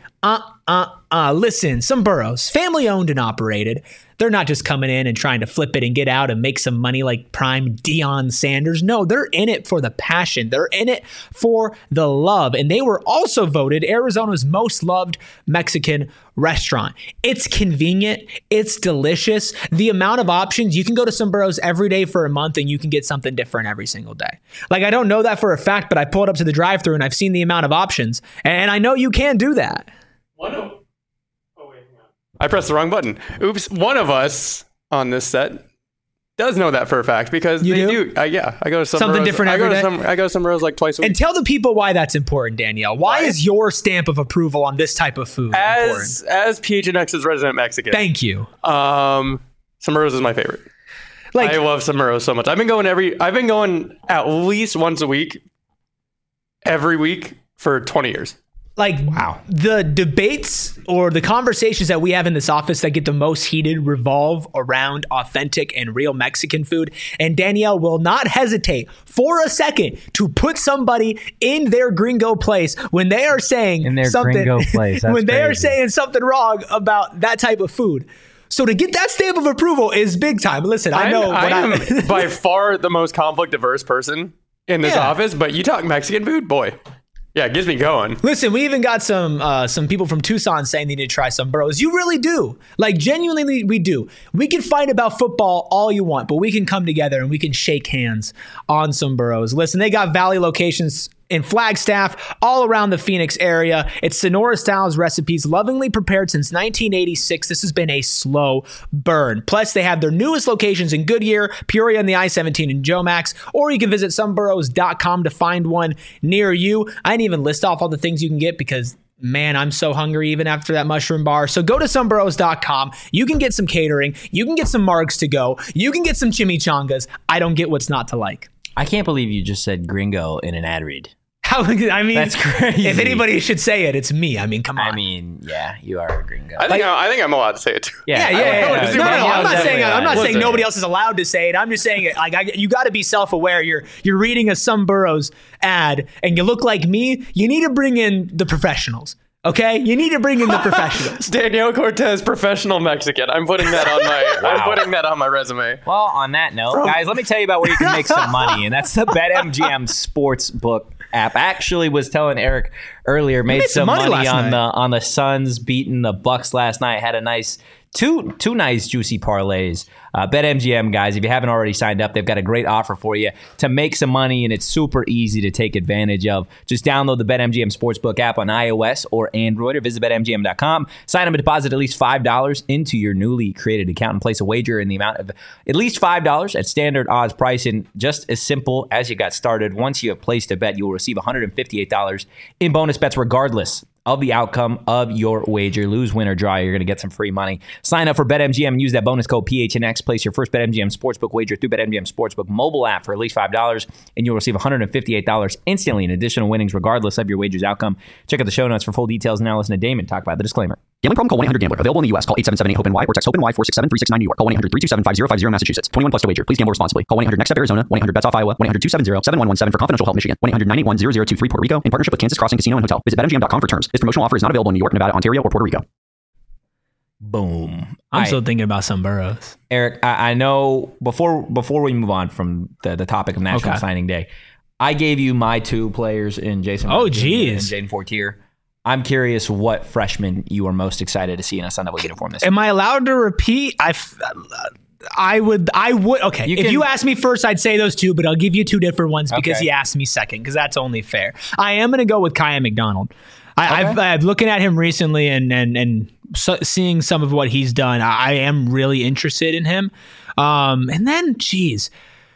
Listen, some Burros, family owned and operated. They're not just coming in and trying to flip it and get out and make some money like prime Deion Sanders. No, they're in it for the passion. They're in it for the love. And they were also voted Arizona's most loved Mexican restaurant. It's convenient. It's delicious. The amount of options, you can go to some Burros every day for a month and you can get something different every single day. Like, I don't know that for a fact, but I pulled up to the drive-thru and I've seen the amount of options. And I know you can do that. I pressed the wrong button. Oops. One of us on this set does know that for a fact because they do. I go to something different every day. I go to Summerose like twice a week. And tell the people why that's important, Danielle. Why is your stamp of approval on this type of food important? As PHNX's resident Mexican. Thank you. Summerose is my favorite. I love Summerose so much. I've been going at least once a week, every week for 20 years. Wow. The debates or the conversations that we have in this office that get the most heated revolve around authentic and real Mexican food. And Danielle will not hesitate for a second to put somebody in their gringo place when they are saying are saying something wrong about that type of food. So to get that stamp of approval is big time. Listen, I am by far the most conflict averse person in this office, but you talk Mexican food, boy. Yeah, it gets me going. Listen, we even got some people from Tucson saying they need to try some burros. You really do. Genuinely, we do. We can fight about football all you want, but we can come together and we can shake hands on some burros. Listen, they got Valley locations in Flagstaff, all around the Phoenix area. It's Sonora Styles recipes, lovingly prepared since 1986. This has been a slow burn. Plus, they have their newest locations in Goodyear, Peoria, and the I-17 in Jomax, or you can visit someburros.com to find one near you. I didn't even list off all the things you can get because man, I'm so hungry even after that mushroom bar. So go to someburros.com. You can get some catering. You can get some margs to go. You can get some chimichangas. I don't get what's not to like. I can't believe you just said gringo in an ad read. That's crazy. If anybody should say it, it's me. Come on. Yeah, you are a gringo. I think I'm allowed to say it too. Yeah. No, I'm not saying nobody else is allowed to say it. I'm just saying it. You got to be self-aware. You're reading a Some Burros ad, and you look like me. You need to bring in the professionals. Okay, you need to bring in the professionals. Daniel Cortez, professional Mexican. I'm putting that on my resume. Well, on that note, guys, let me tell you about where you can make some money, and that's the BetMGM Sportsbook app. I actually was telling Eric earlier, made some money on the Suns beating the Bucks last night. Had a nice two nice juicy parlays. BetMGM, guys, if you haven't already signed up, they've got a great offer for you to make some money, and it's super easy to take advantage of. Just download the BetMGM Sportsbook app on iOS or Android, or visit BetMGM.com. Sign up and deposit at least $5 into your newly created account and place a wager in the amount of at least $5 at standard odds pricing. Just as simple as you got started. Once you have placed a bet, you will receive $158 in bonus bets regardless of the outcome of your wager. Lose, win, or draw, you're going to get some free money. Sign up for BetMGM and use that bonus code PHNX. Place your first BetMGM Sportsbook wager through BetMGM Sportsbook mobile app for at least $5, and you'll receive $158 instantly in additional winnings regardless of your wager's outcome. Check out the show notes for full details. Now listen to Damon talk about the disclaimer. Gambling problem? Call 1-800-GAMBLER. Available in the U.S. Call 877-8-HOPE-NY or text HOPE-NY 467-369 New York. Call 1-800-327-5050 Massachusetts. 21 plus to wager. Please gamble responsibly. Call 1-800-NEXT-STEP Arizona. 1-800-BETS-OFF Iowa. 1-800-270-7117 for confidential help Michigan. 1-800-981-0023 Puerto Rico in partnership with Kansas Crossing Casino and Hotel. Visit BetMGM.com for terms. This promotional offer is not available in New York, Nevada, Ontario, or Puerto Rico. Boom. I'm still thinking about some burros. Eric, I know before we move on from the topic of National Signing Day, I gave you my two players in Jason and Jaden Fortier. I'm curious what freshman you are most excited to see in a Sun Devil uniform this year. Am I allowed to repeat? I would. Okay. If you ask me first, I'd say those two, but I'll give you two different ones because you asked me second, because that's only fair. I am going to go with Kaya McDonald. I've looking at him recently and seeing some of what he's done. I am really interested in him. And then, geez,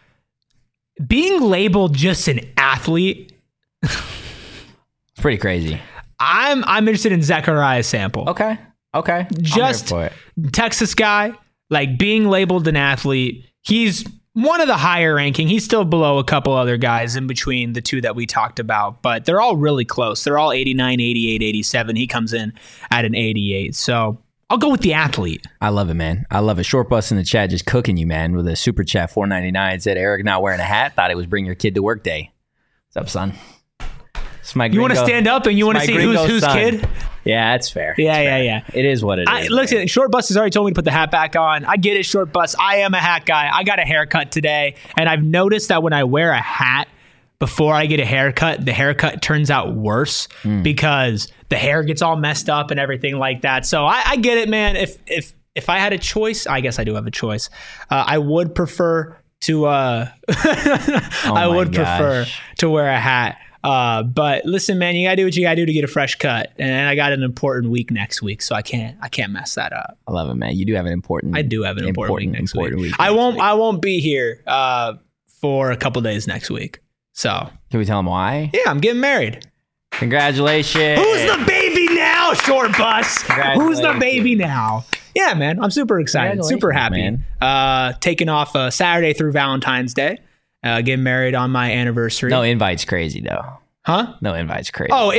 being labeled just an athlete. It's pretty crazy. I'm interested in Zechariah Sample. Okay. Just Texas guy, being labeled an athlete. He's one of the higher ranking. He's still below a couple other guys in between the two that we talked about, but they're all really close. They're all 89, 88, 87. He comes in at an 88. So I'll go with the athlete. I love it, man. I love it. Short Bus in the chat just cooking you, man, with a super chat $4.99. Said Eric not wearing a hat. Thought it was bring your kid to work day. What's up, son? You want to stand up and you want to see who's kid? Yeah, that's fair. Yeah. It is what it is. Listen, Short Bus has already told me to put the hat back on. I get it, Short Bus. I am a hat guy. I got a haircut today, and I've noticed that when I wear a hat before I get a haircut, the haircut turns out worse because the hair gets all messed up and everything like that. So I get it, man. If I had a choice, I guess I do have a choice. I would prefer to prefer to wear a hat But listen, man, you gotta do what you gotta do to get a fresh cut. And I got an important week next week, so I can't mess that up. I love it, man. You do have an important. I do have an important week next week. I won't be here for a couple days next week. So can we tell them why? Yeah, I'm getting married. Congratulations. Who's the baby now, Short Bus? Who's the baby now? Yeah, man, I'm super excited, super happy. Man. Taking off Saturday through Valentine's Day. Getting married on my anniversary. No invite's crazy though. Huh? No invite's crazy. Oh,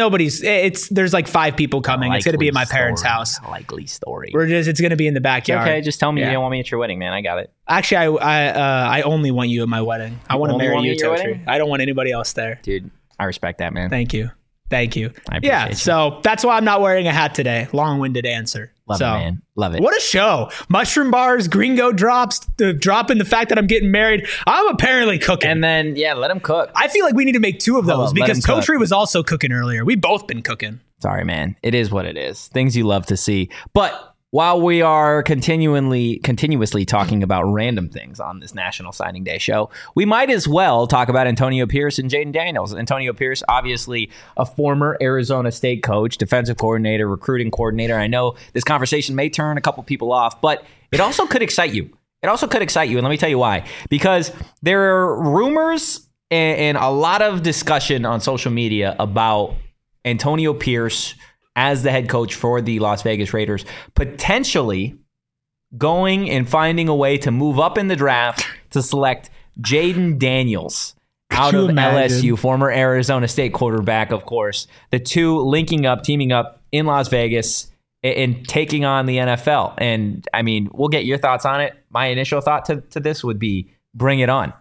there's like 5 people coming. It's going to be at my parents' house. Likely story. It's going to be in the backyard. Okay, just tell me you don't want me at your wedding, man. I got it. Actually, I only want you at my wedding. I want to marry you, Totri. I don't want anybody else there. Dude, I respect that, man. Thank you. I appreciate you. So that's why I'm not wearing a hat today. Long-winded answer. Love it, man. Love it. What a show. Mushroom bars, gringo drops, dropping the fact that I'm getting married. I'm apparently cooking. And then, let him cook. I feel like we need to make 2 of those because Totri was also cooking earlier. We've both been cooking. Sorry, man. It is what it is. Things you love to see. But while we are continuously talking about random things on this National Signing Day show, we might as well talk about Antonio Pierce and Jayden Daniels. Antonio Pierce, obviously a former Arizona State coach, defensive coordinator, recruiting coordinator. I know this conversation may turn a couple people off, but it also could excite you. And let me tell you why. Because there are rumors and a lot of discussion on social media about Antonio Pierce as the head coach for the Las Vegas Raiders, potentially going and finding a way to move up in the draft to select Jayden Daniels out of LSU, former Arizona State quarterback, of course. The 2 teaming up in Las Vegas and taking on the NFL. And, I mean, we'll get your thoughts on it. My initial thought to this would be, bring it on.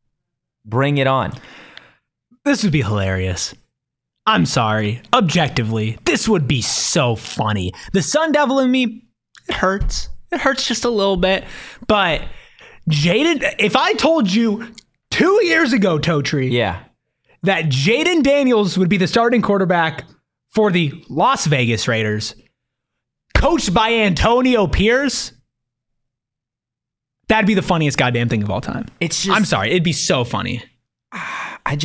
Bring it on. This would be hilarious. I'm sorry. Objectively, this would be so funny. The Sun Devil in me, it hurts. It hurts just a little bit. But Jayden, if I told you 2 years ago, Totri, that Jayden Daniels would be the starting quarterback for the Las Vegas Raiders, coached by Antonio Pierce, that'd be the funniest goddamn thing of all time. I'm sorry. It'd be so funny. I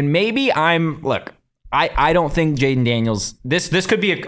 don't think Jayden Daniels. This could be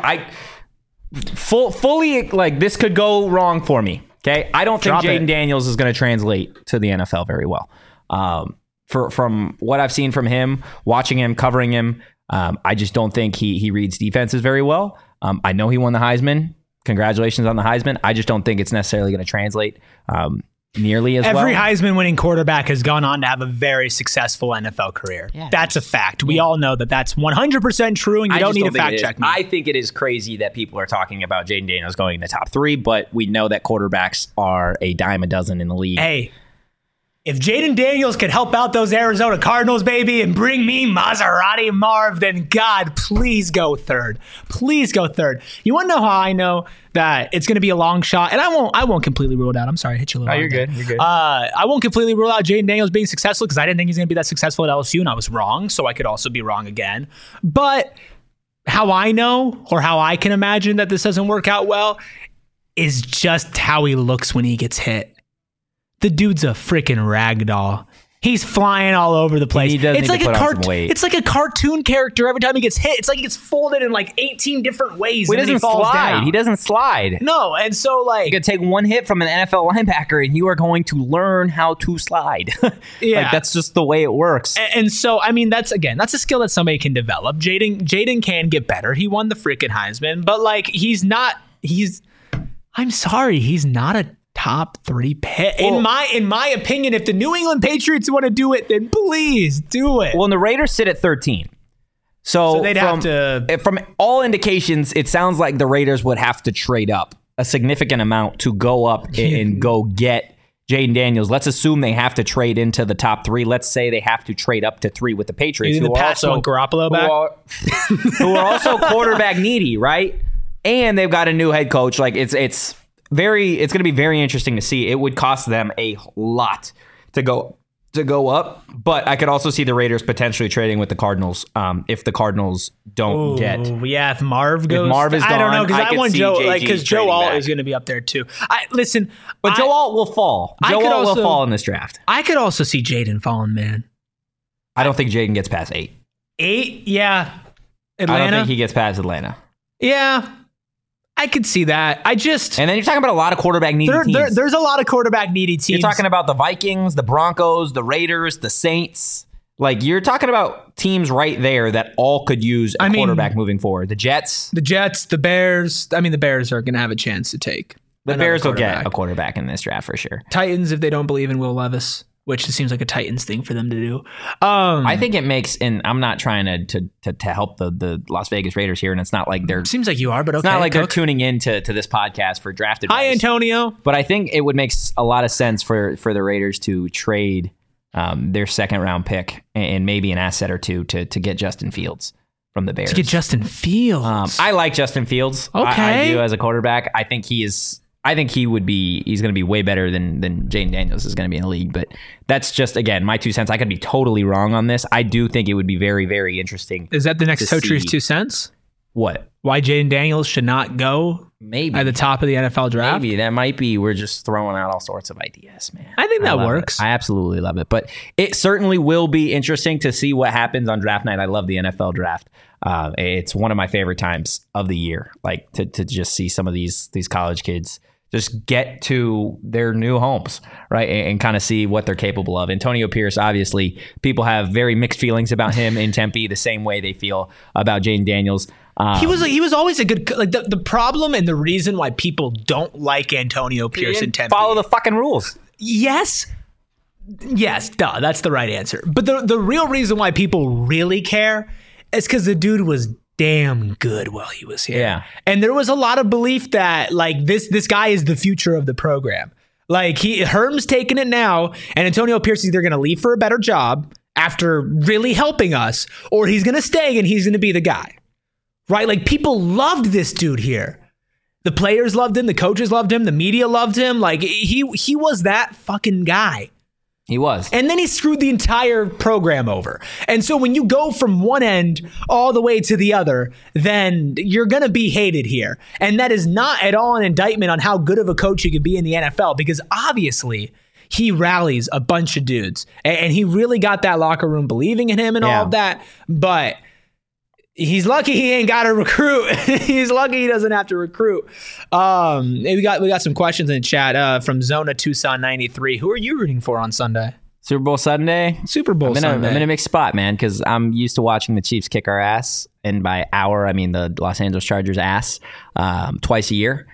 fully like this could go wrong for me. Okay, I don't think Jayden Daniels is going to translate to the NFL very well. From what I've seen from him, watching him, covering him, I just don't think he reads defenses very well. I know he won the Heisman. Congratulations on the Heisman. I just don't think it's necessarily going to translate nearly as well. Every Heisman-winning quarterback has gone on to have a very successful NFL career. Yeah, that's a fact. We all know that that's 100% true, and you don't need to fact check me. I think it is crazy that people are talking about Jayden Daniels going in the top 3, but we know that quarterbacks are a dime a dozen in the league. Hey, if Jayden Daniels could help out those Arizona Cardinals, baby, and bring me Maserati Marv, then God, please go third. Please go third. You want to know how I know that it's going to be a long shot? And I won't completely rule it out. I'm sorry, I hit you a little. Oh, you're good. You're good. I won't completely rule out Jayden Daniels being successful because I didn't think he's going to be that successful at LSU, and I was wrong, so I could also be wrong again. But how I know, or how I can imagine that this doesn't work out well, is just how he looks when he gets hit. The dude's a freaking rag doll. He's flying all over the place. It's like a cartoon character every time he gets hit. It's like he gets folded in like 18 different ways. He doesn't slide. He doesn't slide. No, and so like... You could take one hit from an NFL linebacker and you are going to learn how to slide. Yeah. Like, that's just the way it works. And so, I mean, that's a skill that somebody can develop. Jayden can get better. He won the freaking Heisman, but like I'm sorry, he's not a top 3 pick. Well, in my opinion, if the New England Patriots want to do it, then please do it. Well, and the Raiders sit at 13. So they'd have to... From all indications, it sounds like the Raiders would have to trade up a significant amount to go up and go get Jayden Daniels. Let's assume they have to trade into the top 3. Let's say they have to trade up to 3 with the Patriots. Who are also quarterback needy, right? And they've got a new head coach. Like it's going to be very interesting to see. It would cost them a lot to go up, but I could also see the Raiders potentially trading with the Cardinals if the Cardinals don't get. Yeah, if Marv goes, if Marv is gone, I don't know because I want Joe because Joe Alt is going to be up there too. Joe Alt will fall. Joe Alt will fall in this draft. I could also see Jayden falling, man. I don't think Jayden gets past 8. 8, yeah. Atlanta. I don't think he gets past Atlanta. Yeah. I could see that. And then you're talking about a lot of quarterback needy teams. There's a lot of quarterback needy teams. You're talking about the Vikings, the Broncos, the Raiders, the Saints. Like, you're talking about teams right there that all could use a quarterback moving forward. The Jets, the Bears. I mean, the Bears are going to have a chance to take. The Bears will get a quarterback in this draft for sure. Titans, if they don't believe in Will Levis, which seems like a Titans thing for them to do. I think it makes, and I'm not trying to help the Las Vegas Raiders here, and it's not like they're... Seems like you are, but okay. It's not like they're tuning in to this podcast for draft advice. Hi, Antonio. But I think it would make a lot of sense for the Raiders to trade their second-round pick and maybe an asset or two to get Justin Fields from the Bears. To get Justin Fields? I like Justin Fields. Okay. I do as a quarterback. I think he's going to be way better than Jayden Daniels is going to be in the league. But that's just, again, my 2 cents. I could be totally wrong on this. I do think it would be very, very interesting. Is that the next Totri's 2 cents? What? Why Jayden Daniels should not go maybe at the top of the NFL draft? Maybe. That might be. We're just throwing out all sorts of ideas, man. I think that works. I absolutely love it. But it certainly will be interesting to see what happens on draft night. I love the NFL draft. It's one of my favorite times of the year, like to just see some of these college kids just get to their new homes, right, and kind of see what they're capable of. Antonio Pierce, obviously, people have very mixed feelings about him in Tempe, the same way they feel about Jayden Daniels. He was always a good, like, the problem and the reason why people don't like Antonio Pierce in Tempe. Follow the fucking rules. Yes, duh, that's the right answer. But the real reason why people really care is because the dude was damn good while he was here. Yeah. And there was a lot of belief that, like, this guy is the future of the program. Like, Herm's taking it now, and Antonio Pierce is either going to leave for a better job after really helping us, or he's going to stay and he's going to be the guy. Right? Like, people loved this dude here. The players loved him, the coaches loved him, the media loved him. Like, he was that fucking guy. He was. And then he screwed the entire program over. And so when you go from one end all the way to the other, then you're going to be hated here. And that is not at all an indictment on how good of a coach he could be in the NFL, because obviously he rallies a bunch of dudes. And he really got that locker room believing in him and all of that. But he's lucky he ain't got to recruit. He's lucky he doesn't have to recruit. We got some questions in the chat from Zona Tucson 93. Who are you rooting for on Sunday? Super Bowl Sunday? Sunday. I'm in a mixed spot, man, because I'm used to watching the Chiefs kick our ass. And by our, I mean the Los Angeles Chargers ass twice a year.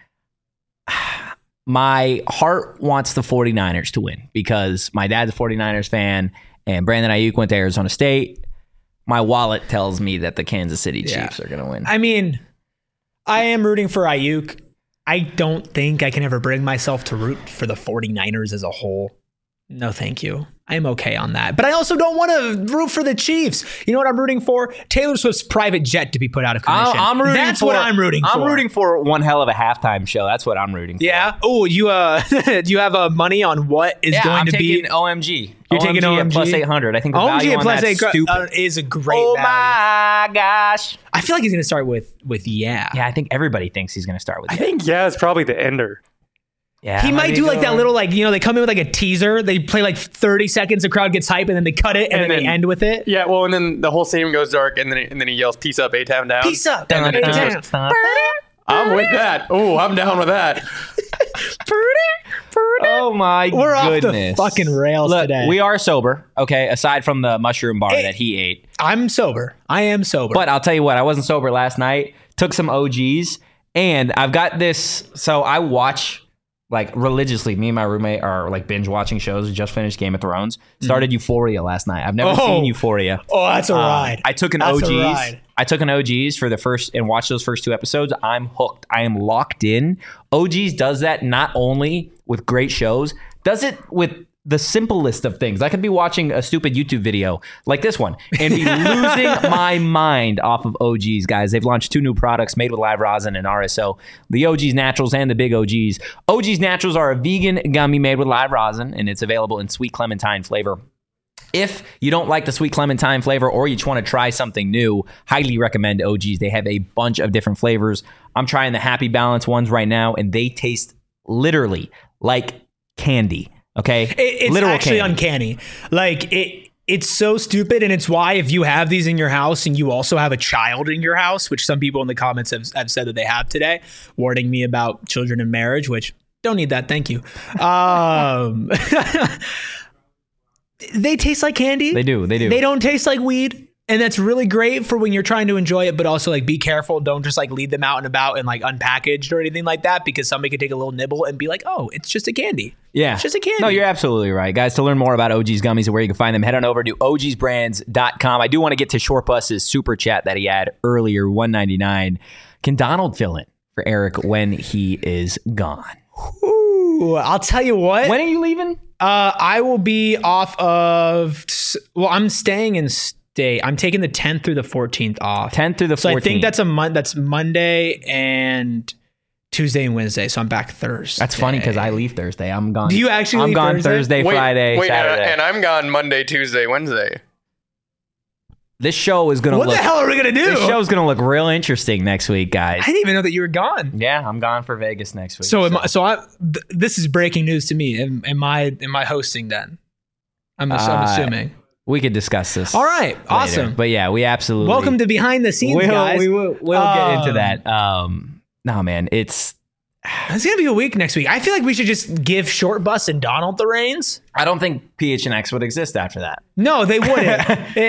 My heart wants the 49ers to win because my dad's a 49ers fan and Brandon Ayuk went to Arizona State. My wallet tells me that the Kansas City Chiefs are going to win. I mean, I am rooting for Ayuk. I don't think I can ever bring myself to root for the 49ers as a whole. No, thank you. I'm okay on that. But I also don't want to root for the Chiefs. You know what I'm rooting for? Taylor Swift's private jet to be put out of commission. That's what I'm rooting for. I'm rooting for one hell of a halftime show. That's what I'm rooting for. Yeah? Oh, you do you have money on what is going to be? OMG. You're taking OMG at plus 800. I think the OMG value on that's stupid. Is a great value. Oh my gosh. I feel like he's going to start with yeah. Yeah, I think everybody thinks he's going to start with I think is probably the ender. Yeah, he might do like that little, like, you know, they come in with like a teaser. They play like 30 seconds, the crowd gets hype, and then they cut it, and then they end with it. Yeah, well, and then the whole stadium goes dark, and then he yells, "Peace up, A-Town down." Peace up, I'm with that. Oh, I'm down with that. Oh my goodness. We're off the fucking rails today. We are sober, okay, aside from the mushroom bar that he ate. I'm sober. I am sober. But I'll tell you what, I wasn't sober last night. Took some OGs, and I've got this. So I watch, like, religiously. Me and my roommate are like binge watching shows. We just finished Game of Thrones. Started Euphoria last night. I've never seen Euphoria. Oh, that's a ride. I took an OGs. I took an OGs for the first and watched those first 2 episodes. I'm hooked. I am locked in. OGs does that not only with great shows, does it with the simplest of things. I could be watching a stupid YouTube video like this one and be losing my mind off of OGs, guys. They've launched 2 new products made with live rosin and RSO, the OGs Naturals and the Big OGs. OGs Naturals are a vegan gummy made with live rosin, and it's available in sweet clementine flavor. If you don't like the sweet clementine flavor or you just want to try something new, highly recommend OGs. They have a bunch of different flavors. I'm trying the Happy Balance ones right now, and they taste literally like candy. Okay, it's literal actually candy. Uncanny. Like It's so stupid, and it's why if you have these in your house and you also have a child in your house, which some people in the comments have said that they have today, warning me about children in marriage, which don't need that, thank you. They taste like candy. They do. They don't taste like weed. And that's really great for when you're trying to enjoy it, but also like be careful. Don't just like leave them out and about and like unpackaged or anything like that, because somebody could take a little nibble and be like, oh, it's just a candy. Yeah. It's just a candy. No, you're absolutely right. Guys, to learn more about OG's Gummies and where you can find them, head on over to ogsbrands.com. I do want to get to Short Bus's super chat that he had earlier, $1.99. Can Donald fill in for Eric when he is gone? Ooh, I'll tell you what. When are you leaving? I will be off of, I'm staying in I'm taking the 10th through the 14th off. 10th through the 14th. So I think that's Monday and Tuesday and Wednesday. So I'm back Thursday. That's funny because I leave Thursday. I'm gone. Do you actually leave I'm gone Thursday, Friday, Saturday. And I'm gone Monday, Tuesday, Wednesday. This show is going to look... What the hell are we going to do? This show's going to look real interesting next week, guys. I didn't even know that you were gone. Yeah, I'm gone for Vegas next week. This is breaking news to me. Am I hosting then? I'm assuming. We could discuss this. All right. Later. Awesome. But yeah, we absolutely... Welcome to Behind the Scenes, guys. We'll get into that. No, man, it's going to be a week next week. I feel like we should just give Short Bus and Donald the reins. I don't think PHNX would exist after that. No, they wouldn't.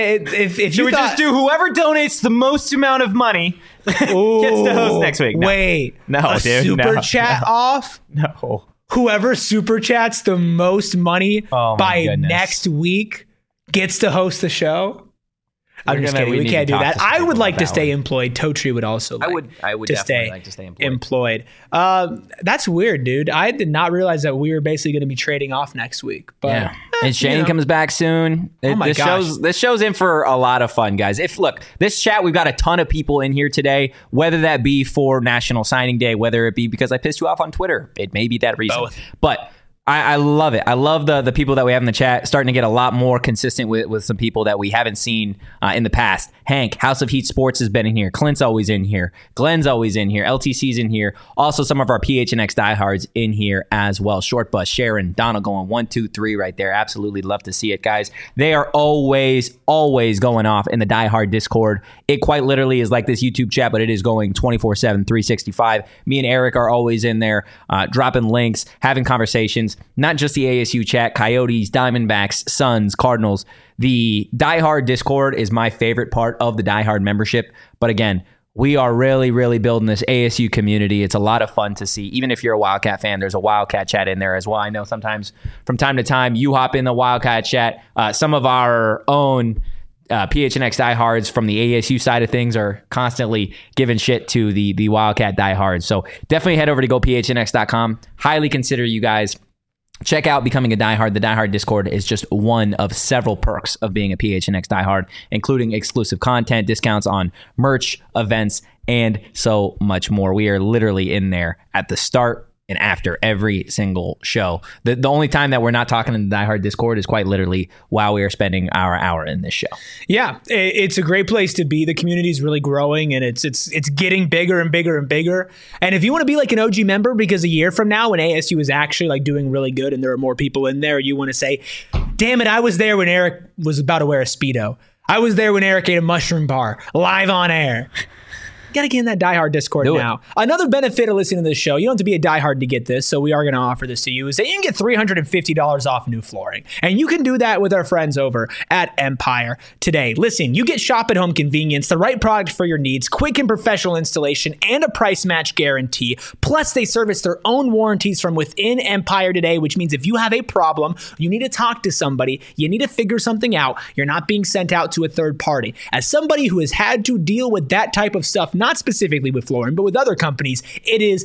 if Should we just do whoever donates the most amount of money gets to host next week? No. Wait. No, dude. Super chat off? No. Whoever super chats the most money by next week gets to host the show. I'm just kidding. We can't do that. I would like to stay employed. Totri would also like I would definitely like to stay employed. That's weird, dude. I did not realize that we were basically going to be trading off next week. But, yeah. And Shane comes back soon. This show's in for a lot of fun, guys. This chat, we've got a ton of people in here today, whether that be for National Signing Day, whether it be because I pissed you off on Twitter. It may be that reason. Both. But I love it. I love the people that we have in the chat, starting to get a lot more consistent with some people that we haven't seen in the past. Hank, House of Heat Sports has been in here. Clint's always in here. Glenn's always in here. LTC's in here. Also, some of our PHNX diehards in here as well. Short Bus, Sharon, Donald going 1, 2, 3 right there. Absolutely love to see it, guys. They are always going off in the diehard Discord. It quite literally is like this YouTube chat, but it is going 24/7, 365. Me and Eric are always in there, dropping links, having conversations. Not just the ASU chat, Coyotes, Diamondbacks, Suns, Cardinals. The diehard Discord is my favorite part of the diehard membership. But again, we are really, really building this ASU community. It's a lot of fun to see. Even if you're a Wildcat fan, there's a Wildcat chat in there as well. I know sometimes from time to time you hop in the Wildcat chat. Some of our own PHNX diehards from the ASU side of things are constantly giving shit to the Wildcat diehards. So definitely head over to gophnx.com. Highly consider you guys check out becoming a diehard. The diehard Discord is just one of several perks of being a PHNX diehard, including exclusive content, discounts on merch, events, and so much more. We are literally in there at the start and after every single show. The only time that we're not talking in the diehard Discord is quite literally while we are spending our hour in this show. Yeah, it's a great place to be. The community is really growing, and it's getting bigger and bigger and bigger. And if you want to be like an OG member, because a year from now when ASU is actually like doing really good and there are more people in there, you want to say, damn it, I was there when Eric was about to wear a Speedo. I was there when Eric ate a mushroom bar live on air. Got to get in that diehard Discord now. Another benefit of listening to this show, you don't have to be a diehard to get this, so we are going to offer this to you, is that you can get $350 off new flooring. And you can do that with our friends over at Empire today. Listen, you get shop at home convenience, the right product for your needs, quick and professional installation, and a price match guarantee. Plus, they service their own warranties from within Empire today, which means if you have a problem, you need to talk to somebody, you need to figure something out, you're not being sent out to a third party. As somebody who has had to deal with that type of stuff, not specifically with flooring, but with other companies, it is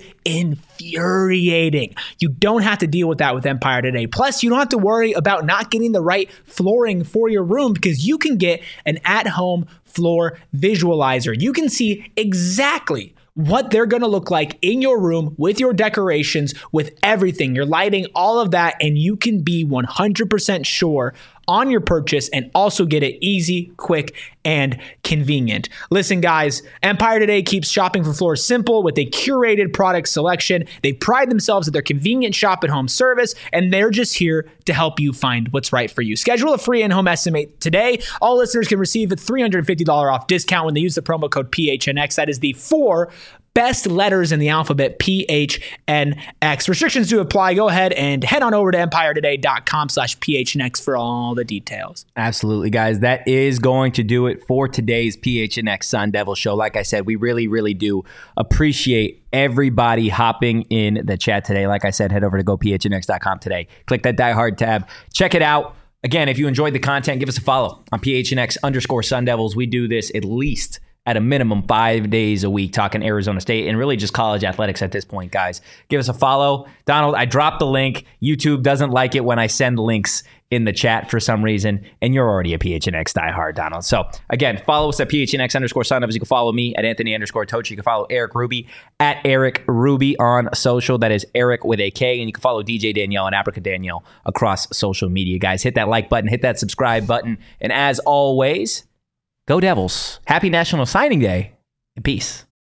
infuriating. You don't have to deal with that with Empire today. Plus, you don't have to worry about not getting the right flooring for your room because you can get an at-home floor visualizer. You can see exactly what they're going to look like in your room with your decorations, with everything, your lighting, all of that, and you can be 100% sure on your purchase and also get it easy, quick, and convenient. Listen, guys, Empire Today keeps shopping for floors simple with a curated product selection. They pride themselves at their convenient shop-at-home service, and they're just here to help you find what's right for you. Schedule a free in-home estimate today. All listeners can receive a $350 off discount when they use the promo code PHNX. That is the 4 best letters in the alphabet, PHNX. Restrictions do apply. Go ahead and head on over to EmpireToday.com/PHNX for all the details. Absolutely, guys. That is going to do it for today's PHNX Sun Devil Show. Like I said, we really, really do appreciate everybody hopping in the chat today. Like I said, head over to GoPHNX.com today. Click that Die Hard tab. Check it out. Again, if you enjoyed the content, give us a follow on PHNX_Sun Devils. We do this at least at a minimum 5 days a week, talking Arizona State and really just college athletics at this point, guys. Give us a follow. Donald, I dropped the link. YouTube doesn't like it when I send links in the chat for some reason, and you're already a PHNX diehard, Donald. So again, follow us at PHNX_Sun Devils. You can follow me at Anthony_Tochi. You can follow Eric Ruby at Eric Ruby on social. That is Eric with a K. And you can follow DJ Danielle and Africa Danielle across social media, guys. Hit that like button, hit that subscribe button. And as always, go Devils. Happy National Signing Day, and peace.